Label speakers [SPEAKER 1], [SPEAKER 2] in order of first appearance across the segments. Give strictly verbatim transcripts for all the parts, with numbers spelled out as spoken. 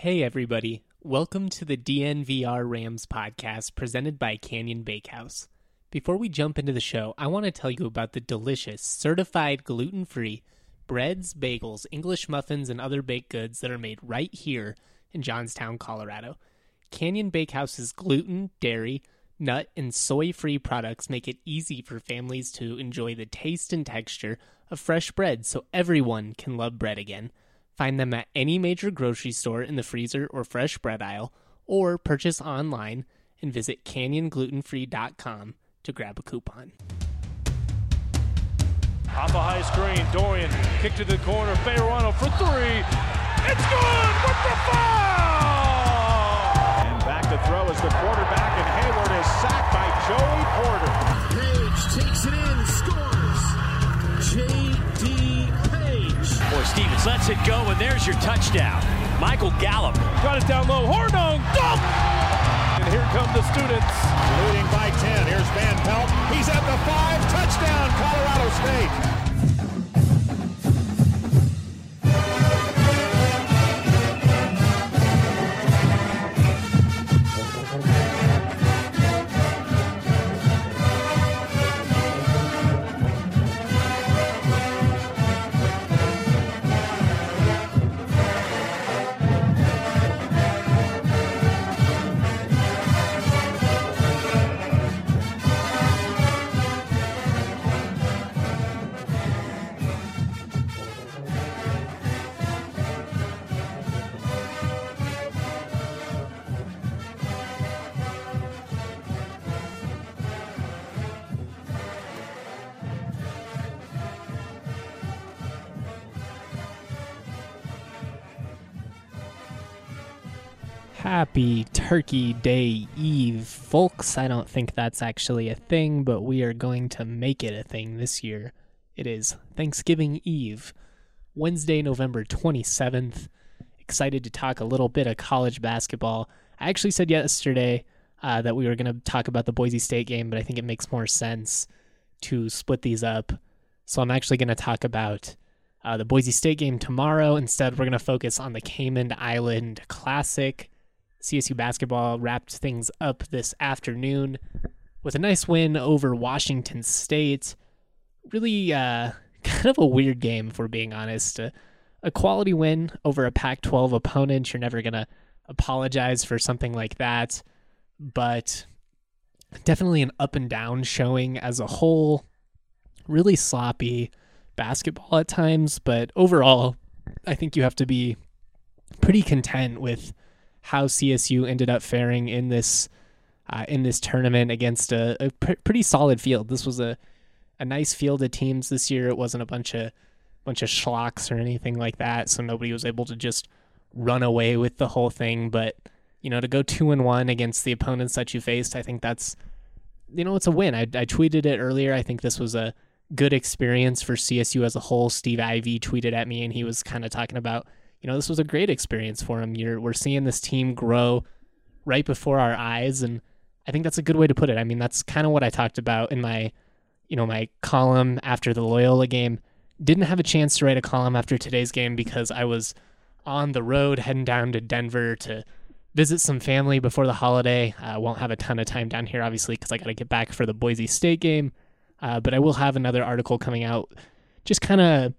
[SPEAKER 1] Hey everybody, welcome to the D N V R Rams podcast presented by Canyon Bakehouse. Before we jump into the show, I want to tell you about the delicious, certified gluten-free breads, bagels, English muffins, and other baked goods that are made right here in Johnstown, Colorado. Canyon Bakehouse's gluten, dairy, nut, and soy-free products make it easy for families to enjoy the taste and texture of fresh bread so everyone can love bread again. Find them at any major grocery store in the freezer or fresh bread aisle, or purchase online and visit canyon gluten free dot com to grab a coupon.
[SPEAKER 2] Off a high screen, Dorian, kick to the corner, Fayerano for three. It's good with the foul! And back to throw is the quarterback, and Hayward is sacked by Joey Porter.
[SPEAKER 3] Page takes it in, scores. J D
[SPEAKER 4] Or Stevens lets it go, and there's your touchdown. Michael Gallup.
[SPEAKER 2] Got it down low. Hornung. Dunk! And here come the students.
[SPEAKER 5] Leading by ten. Here's Van Pelt. He's at the five. Touchdown, Colorado State.
[SPEAKER 1] Happy Turkey Day Eve, folks. I don't think that's actually a thing, but we are going to make it a thing this year. It is Thanksgiving Eve, Wednesday, November twenty-seventh. Excited to talk a little bit of college basketball. I actually said yesterday uh, that we were going to talk about the Boise State game, but I think it makes more sense to split these up. So I'm actually going to talk about uh, the Boise State game tomorrow. Instead, we're going to focus on the Cayman Island Classic. C S U basketball wrapped things up this afternoon with a nice win over Washington State. Really uh, kind of a weird game, if we're being honest. Uh, a quality win over a Pac twelve opponent. You're never going to apologize for something like that. But definitely an up and down showing as a whole. Really sloppy basketball at times. But overall, I think you have to be pretty content with how C S U ended up faring in this uh, in this tournament against a, a pr- pretty solid field. This was a, a nice field of teams this year. It wasn't a bunch of bunch of schlocks or anything like that, so nobody was able to just run away with the whole thing. But you know, to go two and one against the opponents that you faced, I think that's you know it's a win. I, I tweeted it earlier. I think this was a good experience for C S U as a whole. Steve Ivey tweeted at me, and he was kind of talking about, you know, this was a great experience for him. You're, we're seeing this team grow right before our eyes, and I think that's a good way to put it. I mean, that's kind of what I talked about in my, you know, my column after the Loyola game. Didn't have a chance to write a column after today's game because I was on the road heading down to Denver to visit some family before the holiday. I uh, won't have a ton of time down here, obviously, because I got to get back for the Boise State game. Uh, but I will have another article coming out just kind of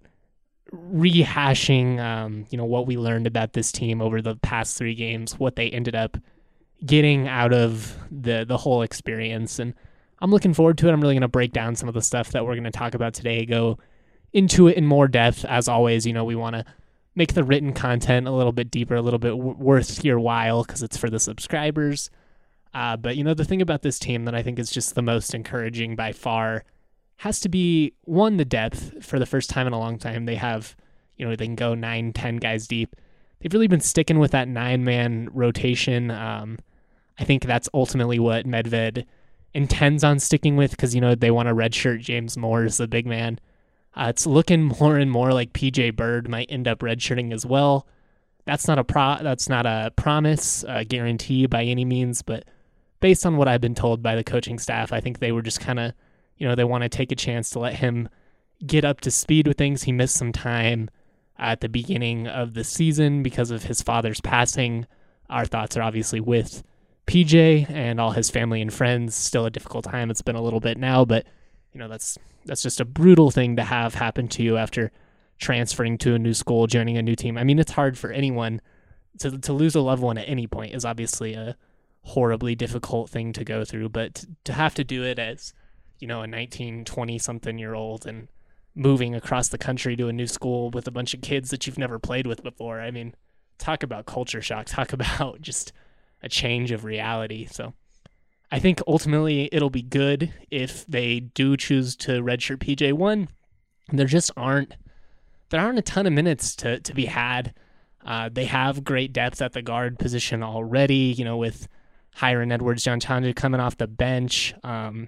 [SPEAKER 1] rehashing, um, you know, what we learned about this team over the past three games, what they ended up getting out of the the whole experience. And I'm looking forward to it. I'm really going to break down some of the stuff that we're going to talk about today, go into it in more depth. As always, you know, we want to make the written content a little bit deeper, a little bit w- worth your while because it's for the subscribers. Uh, but, you know, the thing about this team that I think is just the most encouraging by far has to be, one, the depth. For the first time in a long time, they have, you know, they can go nine, ten guys deep. They've really been sticking with that nine-man rotation. Um, I think that's ultimately what Medved intends on sticking with because, you know, they want to redshirt James Moore as the big man. Uh, it's looking more and more like P J Bird might end up redshirting as well. That's not a pro. That's not a promise, a guarantee by any means, but based on what I've been told by the coaching staff, I think they were just kind of, you know, they want to take a chance to let him get up to speed with things. He missed some time at the beginning of the season because of his father's passing. Our thoughts are obviously with P J and all his family and friends. Still a difficult time. It's been a little bit now, but you know, that's that's just a brutal thing to have happen to you after transferring to a new school, joining a new team. I mean, it's hard for anyone to to lose a loved one at any point is obviously a horribly difficult thing to go through, but to, to have to do it as, you know, a nineteen, twenty something year old and moving across the country to a new school with a bunch of kids that you've never played with before. I mean, talk about culture shock, talk about just a change of reality. So I think ultimately it'll be good if they do choose to redshirt P J. One, there just aren't there aren't a ton of minutes to, to be had. Uh, they have great depth at the guard position already, you know, with Hiram Edwards, John Tanja coming off the bench. Um,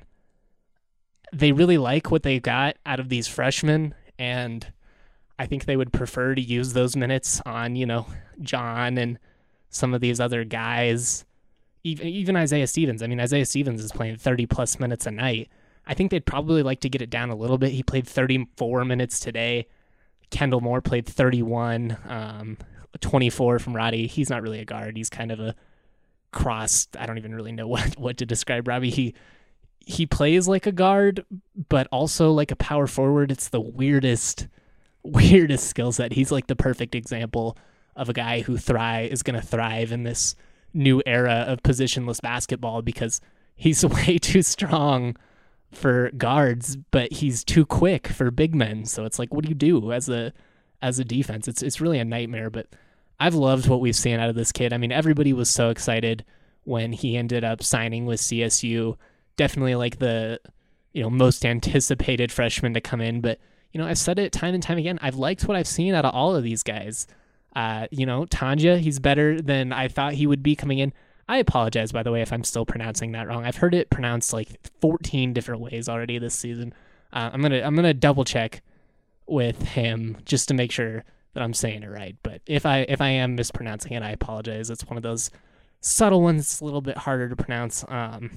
[SPEAKER 1] they really like what they got out of these freshmen, and I think they would prefer to use those minutes on, you know, John and some of these other guys, even even Isaiah Stevens. I mean, Isaiah Stevens is playing thirty plus minutes a night. I think they'd probably like to get it down a little bit. He played thirty-four minutes today. Kendall Moore played thirty-one, um, twenty-four from Roddy. He's not really a guard. He's kind of a cross. I don't even really know what, what to describe Robbie. He he plays like a guard, but also like a power forward. It's the weirdest, weirdest skill set. He's like the perfect example of a guy who thrive is going to thrive in this new era of positionless basketball because he's way too strong for guards, but he's too quick for big men. So it's like, what do you do as a as a defense? It's it's really a nightmare. But I've loved what we've seen out of this kid. I mean, everybody was so excited when he ended up signing with C S U. Definitely like the, you know, most anticipated freshman to come in. But, you know, I've said it time and time again. I've liked what I've seen out of all of these guys. Uh, you know, Tanja, he's better than I thought he would be coming in. I apologize, by the way, if I'm still pronouncing that wrong. I've heard it pronounced like fourteen different ways already this season. Uh, I'm gonna I'm gonna double check with him just to make sure that I'm saying it right. But if I if I am mispronouncing it, I apologize. It's one of those subtle ones, a little bit harder to pronounce. Um,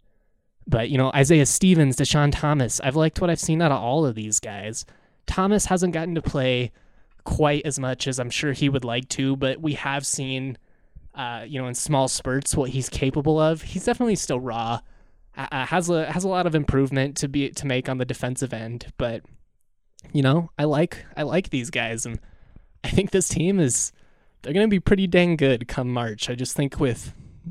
[SPEAKER 1] but you know, Isaiah Stevens, Deshaun Thomas, I've liked what I've seen out of all of these guys. Thomas hasn't gotten to play quite as much as I'm sure he would like to, but we have seen, uh, you know, in small spurts what he's capable of. He's definitely still raw. Uh, has a has a lot of improvement to be to make on the defensive end, but you know, I like I like these guys, and I think this team is they're going to be pretty dang good come March. I just think with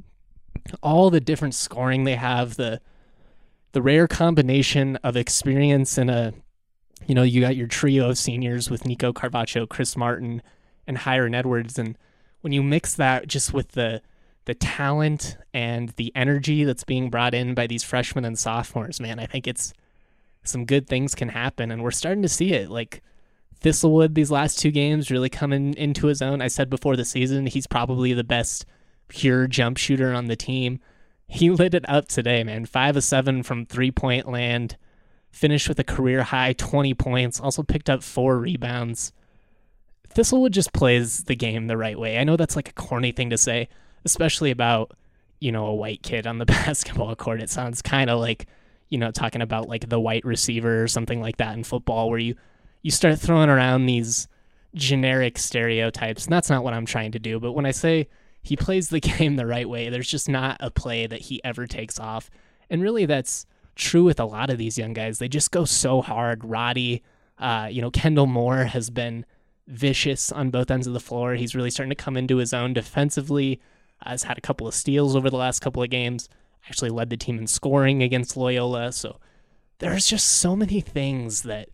[SPEAKER 1] all the different scoring they have, the the rare combination of experience and a, you know, you got your trio of seniors with Nico Carvacho, Chris Martin, and Hiram Edwards, and when you mix that just with the the talent and the energy that's being brought in by these freshmen and sophomores, man, I think it's some good things can happen, and we're starting to see it. Like Thistlewood, these last two games really coming into his own. I said before the season, he's probably the best pure jump shooter on the team. He lit it up today, man. Five of seven from three-point land, finished with a career-high twenty points, also picked up four rebounds. Thistlewood just plays the game the right way. I know that's like a corny thing to say, especially about, you know, a white kid on the basketball court. It sounds kind of like, you know, talking about like the white receiver or something like that in football, where you, you start throwing around these generic stereotypes. And that's not what I'm trying to do. But when I say he plays the game the right way, there's just not a play that he ever takes off. And really that's true with a lot of these young guys. They just go so hard. Roddy, uh, you know, Kendall Moore has been vicious on both ends of the floor. He's really starting to come into his own defensively. Uh, has had a couple of steals over the last couple of games. Actually led the team in scoring against Loyola. So there's just so many things that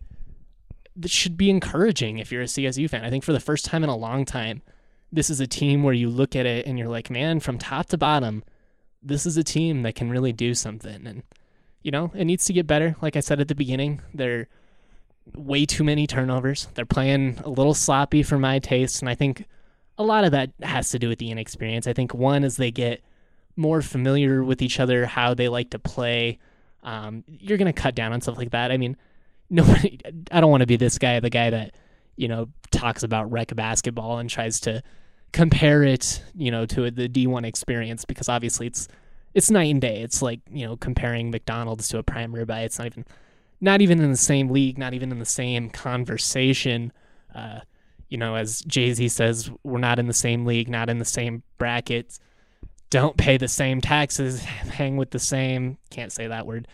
[SPEAKER 1] that should be encouraging if you're a C S U fan. I think for the first time in a long time, this is a team where you look at it and you're like, man, from top to bottom, this is a team that can really do something. And, you know, it needs to get better. Like I said at the beginning, they're way too many turnovers. They're playing a little sloppy for my taste, and I think a lot of that has to do with the inexperience. I think one, as they get more familiar with each other, how they like to play, um, you're going to cut down on stuff like that. I mean, nobody, I don't want to be this guy, the guy that, you know, talks about rec basketball and tries to compare it, you know, to the D one experience, because obviously it's it's night and day. It's like, you know, comparing McDonald's to a prime ribeye. It's not even not even in the same league, not even in the same conversation. Uh, You know, as Jay-Z says, we're not in the same league, not in the same brackets. Don't pay the same taxes, hang with the same, can't say that word.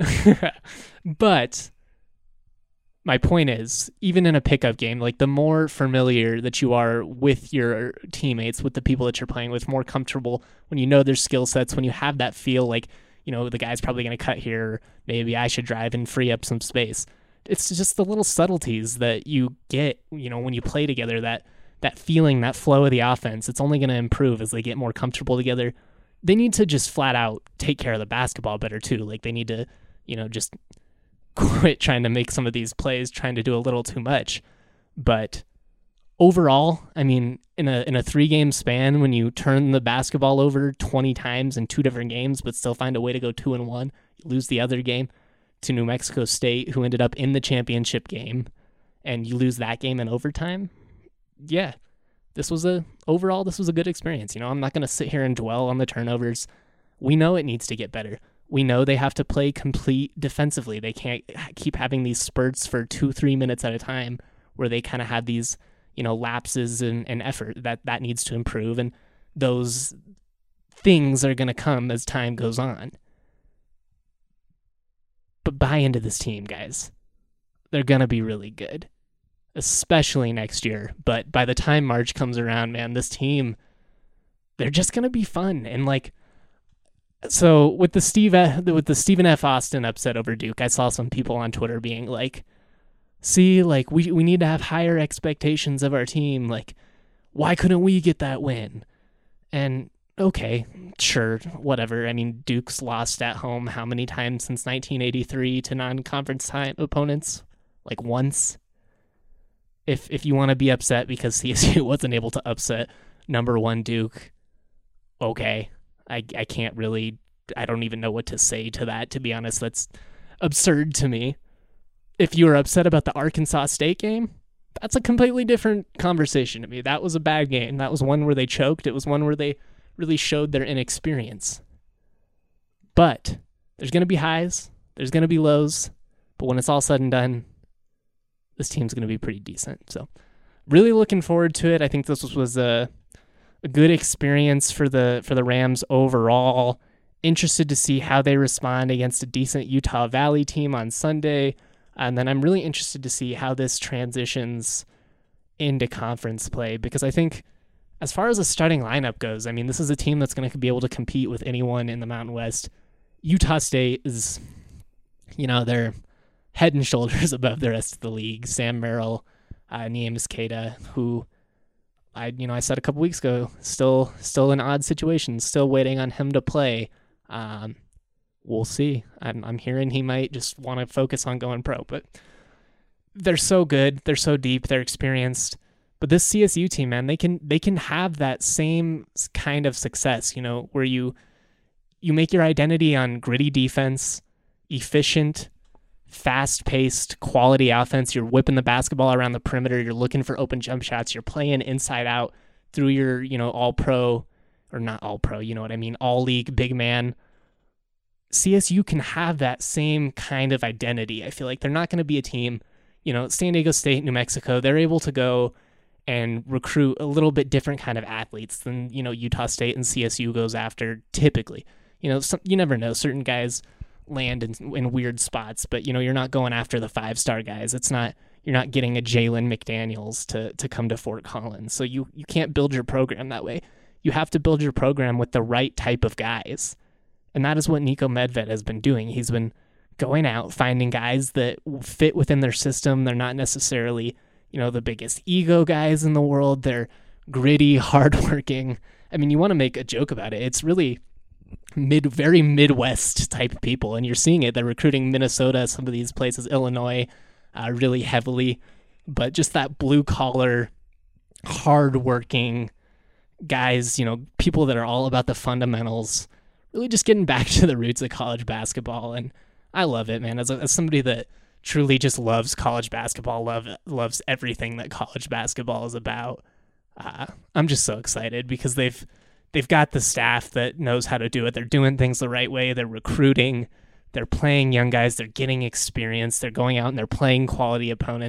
[SPEAKER 1] But my point is, even in a pickup game, like the more familiar that you are with your teammates, with the people that you're playing with, more comfortable when you know their skill sets, when you have that feel like, you know, the guy's probably going to cut here, or maybe I should drive and free up some space. It's just the little subtleties that you get, you know, when you play together, that that feeling, that flow of the offense. It's only going to improve as they get more comfortable together. They need to just flat out take care of the basketball better too. Like they need to, you know, just quit trying to make some of these plays, trying to do a little too much. But overall, I mean, in a in a three-game span, when you turn the basketball over twenty times in two different games, but still find a way to go two and one, you lose the other game to New Mexico State, who ended up in the championship game, and you lose that game in overtime. Yeah, this was a overall this was a good experience. You know, I'm not going to sit here and dwell on the turnovers. We know it needs to get better. We know they have to play complete defensively. They can't keep having these spurts for two, three minutes at a time where they kind of have these, you know, lapses in, in effort. That that needs to improve, and those things are going to come as time goes on. But buy into this team, guys. They're going to be really good, especially next year. But by the time March comes around, man, this team, they're just going to be fun. And like, so with the Steve, with the Stephen F. Austin upset over Duke, I saw some people on Twitter being like, see, like we, we need to have higher expectations of our team. Like, why couldn't we get that win? And okay, sure, whatever. I mean, Duke's lost at home how many times since nineteen eighty-three to non-conference time opponents? Like once. If if you want to be upset because C S U wasn't able to upset number one Duke, okay. I I can't really, I don't even know what to say to that, to be honest. That's absurd to me. If you were upset about the Arkansas State game, that's a completely different conversation to me. That was a bad game. That was one where they choked. It was one where they really showed their inexperience. But there's going to be highs, there's going to be lows, but when it's all said and done, this team's going to be pretty decent. So really looking forward to it. I think this was, was a, a good experience for the for the Rams overall. Interested to see how they respond against a decent Utah Valley team on Sunday. And then I'm really interested to see how this transitions into conference play, because I think as far as the starting lineup goes, I mean, this is a team that's going to be able to compete with anyone in the Mountain West. Utah State is, you know, they're head and shoulders above the rest of the league. Sam Merrill, uh, Niemus Keita, who I, you know, I said a couple weeks ago, still, still in odd situations, still waiting on him to play. Um, we'll see. I'm, I'm hearing he might just want to focus on going pro, but they're so good. They're so deep. They're experienced. But this C S U team, man, they can they can have that same kind of success, you know, where you you make your identity on gritty defense, efficient, fast-paced, quality offense. You're whipping the basketball around the perimeter. You're looking for open jump shots. You're playing inside out through your, you know, all-pro, or not all-pro, you know what I mean, all-league big man. C S U can have that same kind of identity. I feel like they're not going to be a team, you know, San Diego State, New Mexico, they're able to go and recruit a little bit different kind of athletes than, you know, Utah State and C S U goes after typically. You know, some, you never know. Certain guys land in, in weird spots, but, you know, you're not going after the five-star guys. It's not, you're not getting a Jalen McDaniels to to come to Fort Collins. So you, you can't build your program that way. You have to build your program with the right type of guys. And that is what Nico Medved has been doing. He's been going out, finding guys that fit within their system. They're not necessarily, you know, the biggest ego guys in the world. They're gritty, hardworking. I mean, you want to make a joke about it. It's really mid, very Midwest type people, and you're seeing it. They're recruiting Minnesota, some of these places, Illinois, uh, really heavily. But just that blue collar, hardworking guys, you know, people that are all about the fundamentals, really just getting back to the roots of college basketball. And I love it, man. As, a, as somebody that truly just loves college basketball, love loves everything that college basketball is about, uh, I'm just so excited because they've they've got the staff that knows how to do it. They're doing things the right way. They're recruiting. They're playing young guys. They're getting experience. They're going out and they're playing quality opponents.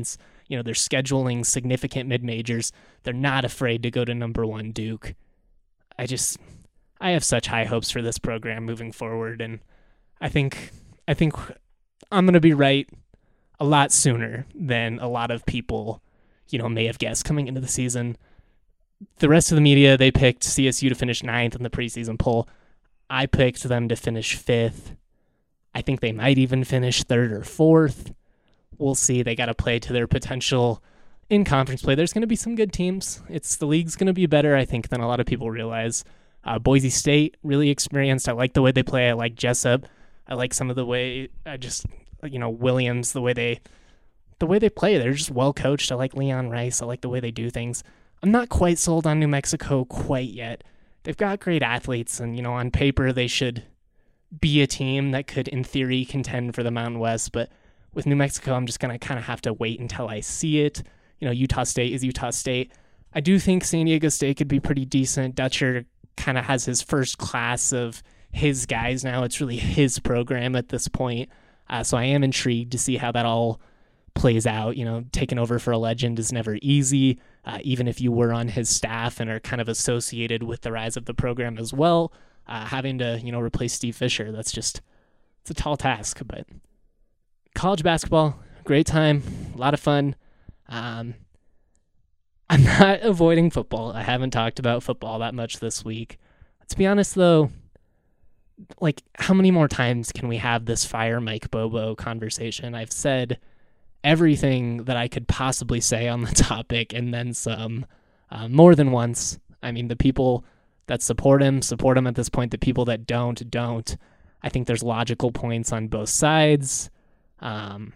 [SPEAKER 1] You know, they're scheduling significant mid-majors. They're not afraid to go to number one Duke. I just, I have such high hopes for this program moving forward, and I think, I think I'm going to be right a lot sooner than a lot of people, you know, may have guessed coming into the season. The rest of the media, they picked C S U to finish ninth in the preseason poll. I picked them to finish fifth. I think they might even finish third or fourth. We'll see. They got to play to their potential in conference play. There's going to be some good teams. It's the league's going to be better, I think, than a lot of people realize. Uh, Boise State, really experienced. I like the way they play. I like Jessup. I like some of the way, I just, you know, Williams, the way they, the way they play. They're just well coached. I like Leon Rice. I like the way they do things. I'm not quite sold on New Mexico quite yet. They've got great athletes, and, you know, on paper they should be a team that could, in theory, contend for the Mountain West, but with New Mexico, I'm just going to kind of have to wait until I see it. You know, Utah State is Utah State. I do think San Diego State could be pretty decent. Dutcher kind of has his first class of his guys now. It's really his program at this point. Uh, so I am intrigued to see how that all plays out. You know, taking over for a legend is never easy, uh, even if you were on his staff and are kind of associated with the rise of the program as well. Uh, having to, you know, replace Steve Fisher, that's just, it's a tall task, but college basketball, great time, a lot of fun. Um, I'm not avoiding football. I haven't talked about football that much this week. To be honest, though, like, how many more times can we have this fire Mike Bobo conversation? I've said everything that I could possibly say on the topic and then some, uh, more than once. I mean, the people that support him, support him at this point. The people that don't, don't. I think there's logical points on both sides. Um,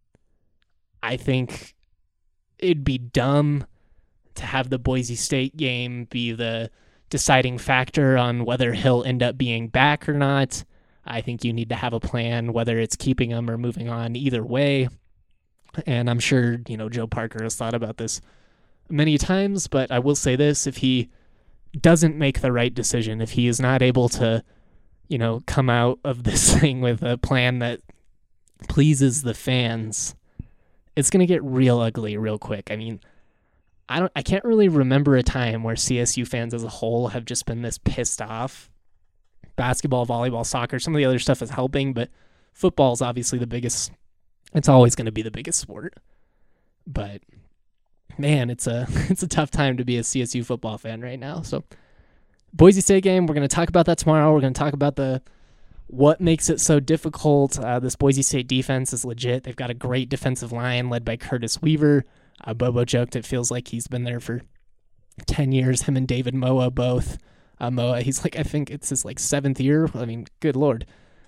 [SPEAKER 1] I think it'd be dumb to have the Boise State game be the deciding factor on whether he'll end up being back or not. I think you need to have a plan, whether it's keeping him or moving on, either way. And I'm sure, you know, Joe Parker has thought about this many times, but I will say this, if he doesn't make the right decision, if he is not able to, you know, come out of this thing with a plan that pleases the fans, it's going to get real ugly real quick. I mean, I don't I can't really remember a time where C S U fans as a whole have just been this pissed off. Basketball, volleyball, soccer, some of the other stuff is helping, but football is obviously the biggest. It's always going to be the biggest sport. But man, it's a it's a tough time to be a C S U football fan right now. So Boise State game, we're going to talk about that tomorrow. We're going to talk about the what makes it so difficult. Uh, this Boise State defense is legit. They've got a great defensive line led by Curtis Weaver. Uh, Bobo joked it feels like he's been there for ten years. Him and David Moa both. Uh, Moa, he's like, I think it's his like seventh year. I mean, good Lord.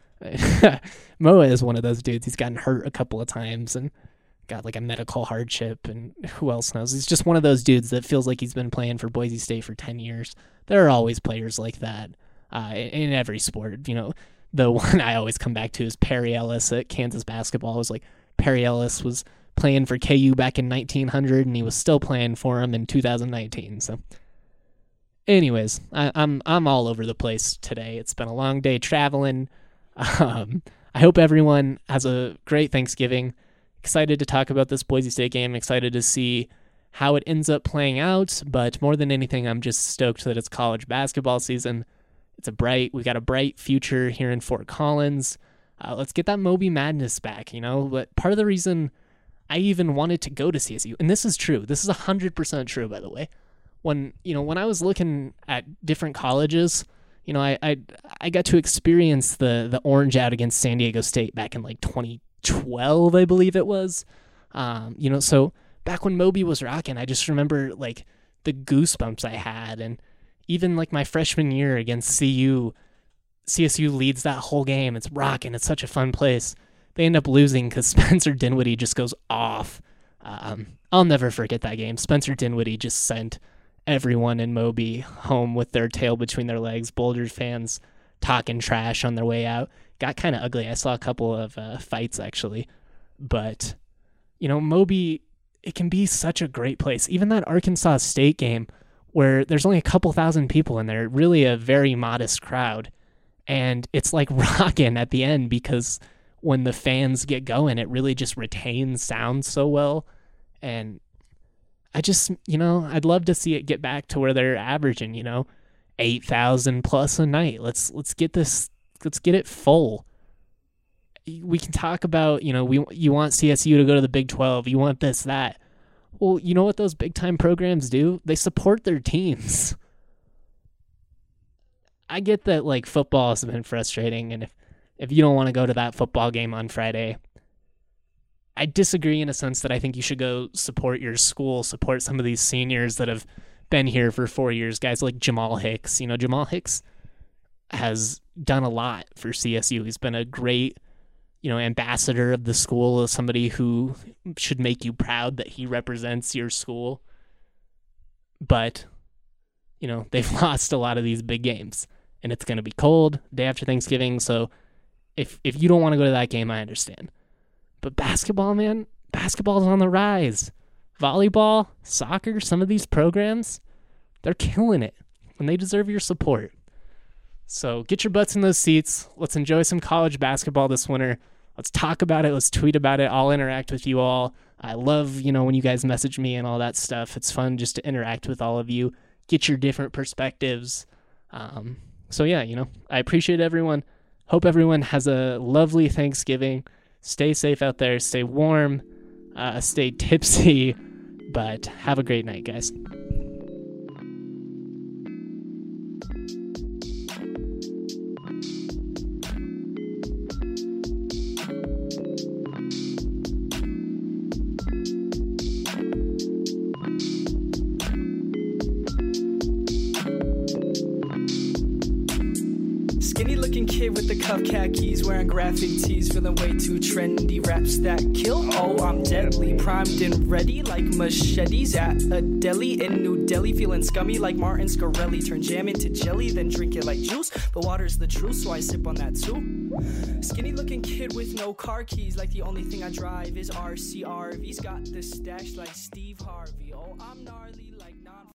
[SPEAKER 1] Moa is one of those dudes. He's gotten hurt a couple of times and got like a medical hardship, and who else knows? He's just one of those dudes that feels like he's been playing for Boise State for ten years. There are always players like that uh, in, in every sport. You know, the one I always come back to is Perry Ellis at Kansas basketball. It was like Perry Ellis was playing for K U back in nineteen hundred, and he was still playing for him in two thousand nineteen. So anyways, I, I'm I'm all over the place today. It's been a long day traveling. Um, I hope everyone has a great Thanksgiving. Excited to talk about this Boise State game. Excited to see how it ends up playing out. But more than anything, I'm just stoked that it's college basketball season. It's a bright, we got a bright future here in Fort Collins. Uh, let's get that Moby Madness back, you know. But part of the reason I even wanted to go to C S U, and this is true. This is one hundred percent true, by the way. When, you know, when I was looking at different colleges, you know, I I, I got to experience the the Orange Out against San Diego State back in like twenty twelve, I believe it was. Um, you know, so back when Moby was rocking, I just remember like the goosebumps I had, and even like my freshman year against C U, C S U leads that whole game. It's rocking. It's such a fun place. They end up losing because Spencer Dinwiddie just goes off. Um, I'll never forget that game. Spencer Dinwiddie just sent everyone in Moby home with their tail between their legs. Boulder fans talking trash on their way out. Got kind of ugly. I saw a couple of uh, fights, actually. But, you know, Moby, it can be such a great place. Even that Arkansas State game where there's only a couple thousand people in there, really a very modest crowd. And it's like rocking at the end because when the fans get going, it really just retains sound so well. And I just, you know, I'd love to see it get back to where they're averaging, you know, eight thousand plus a night. Let's let's get this, let's get it full. We can talk about, you know, we you want C S U to go to the Big twelve. You want this, that. Well, you know what those big-time programs do? They support their teams. I get that, like, football has been frustrating, and if, if you don't want to go to that football game on Friday, I disagree in a sense that I think you should go support your school, support some of these seniors that have been here for four years, guys like Jamal Hicks. You know, Jamal Hicks has done a lot for C S U. He's been a great, you know, ambassador of the school, somebody who should make you proud that he represents your school. But, you know, they've lost a lot of these big games, and it's going to be cold day after Thanksgiving. So if if you don't want to go to that game, I understand. But basketball, man, basketball's on the rise. Volleyball, soccer, some of these programs, they're killing it, and they deserve your support. So get your butts in those seats. Let's enjoy some college basketball this winter. Let's talk about it. Let's tweet about it. I'll interact with you all. I love, you know, when you guys message me and all that stuff. It's fun just to interact with all of you, get your different perspectives. Um, so, yeah, you know, I appreciate everyone. Hope everyone has a lovely Thanksgiving. Stay safe out there. Stay warm. Uh, stay tipsy. But have a great night, guys.
[SPEAKER 6] Skinny looking kid with the cuff khakis, wearing graphic tees, feeling way too trendy. Raps that kill, oh I'm deadly, primed and ready like machetes at a deli in New Delhi. Feeling scummy like Martin Scarelli, turn jam into jelly, then drink it like juice. But water's the truth, so I sip on that too. Skinny looking kid with no car keys, like the only thing I drive is R C R V's. Got the stash like Steve Harvey, oh I'm gnarly like non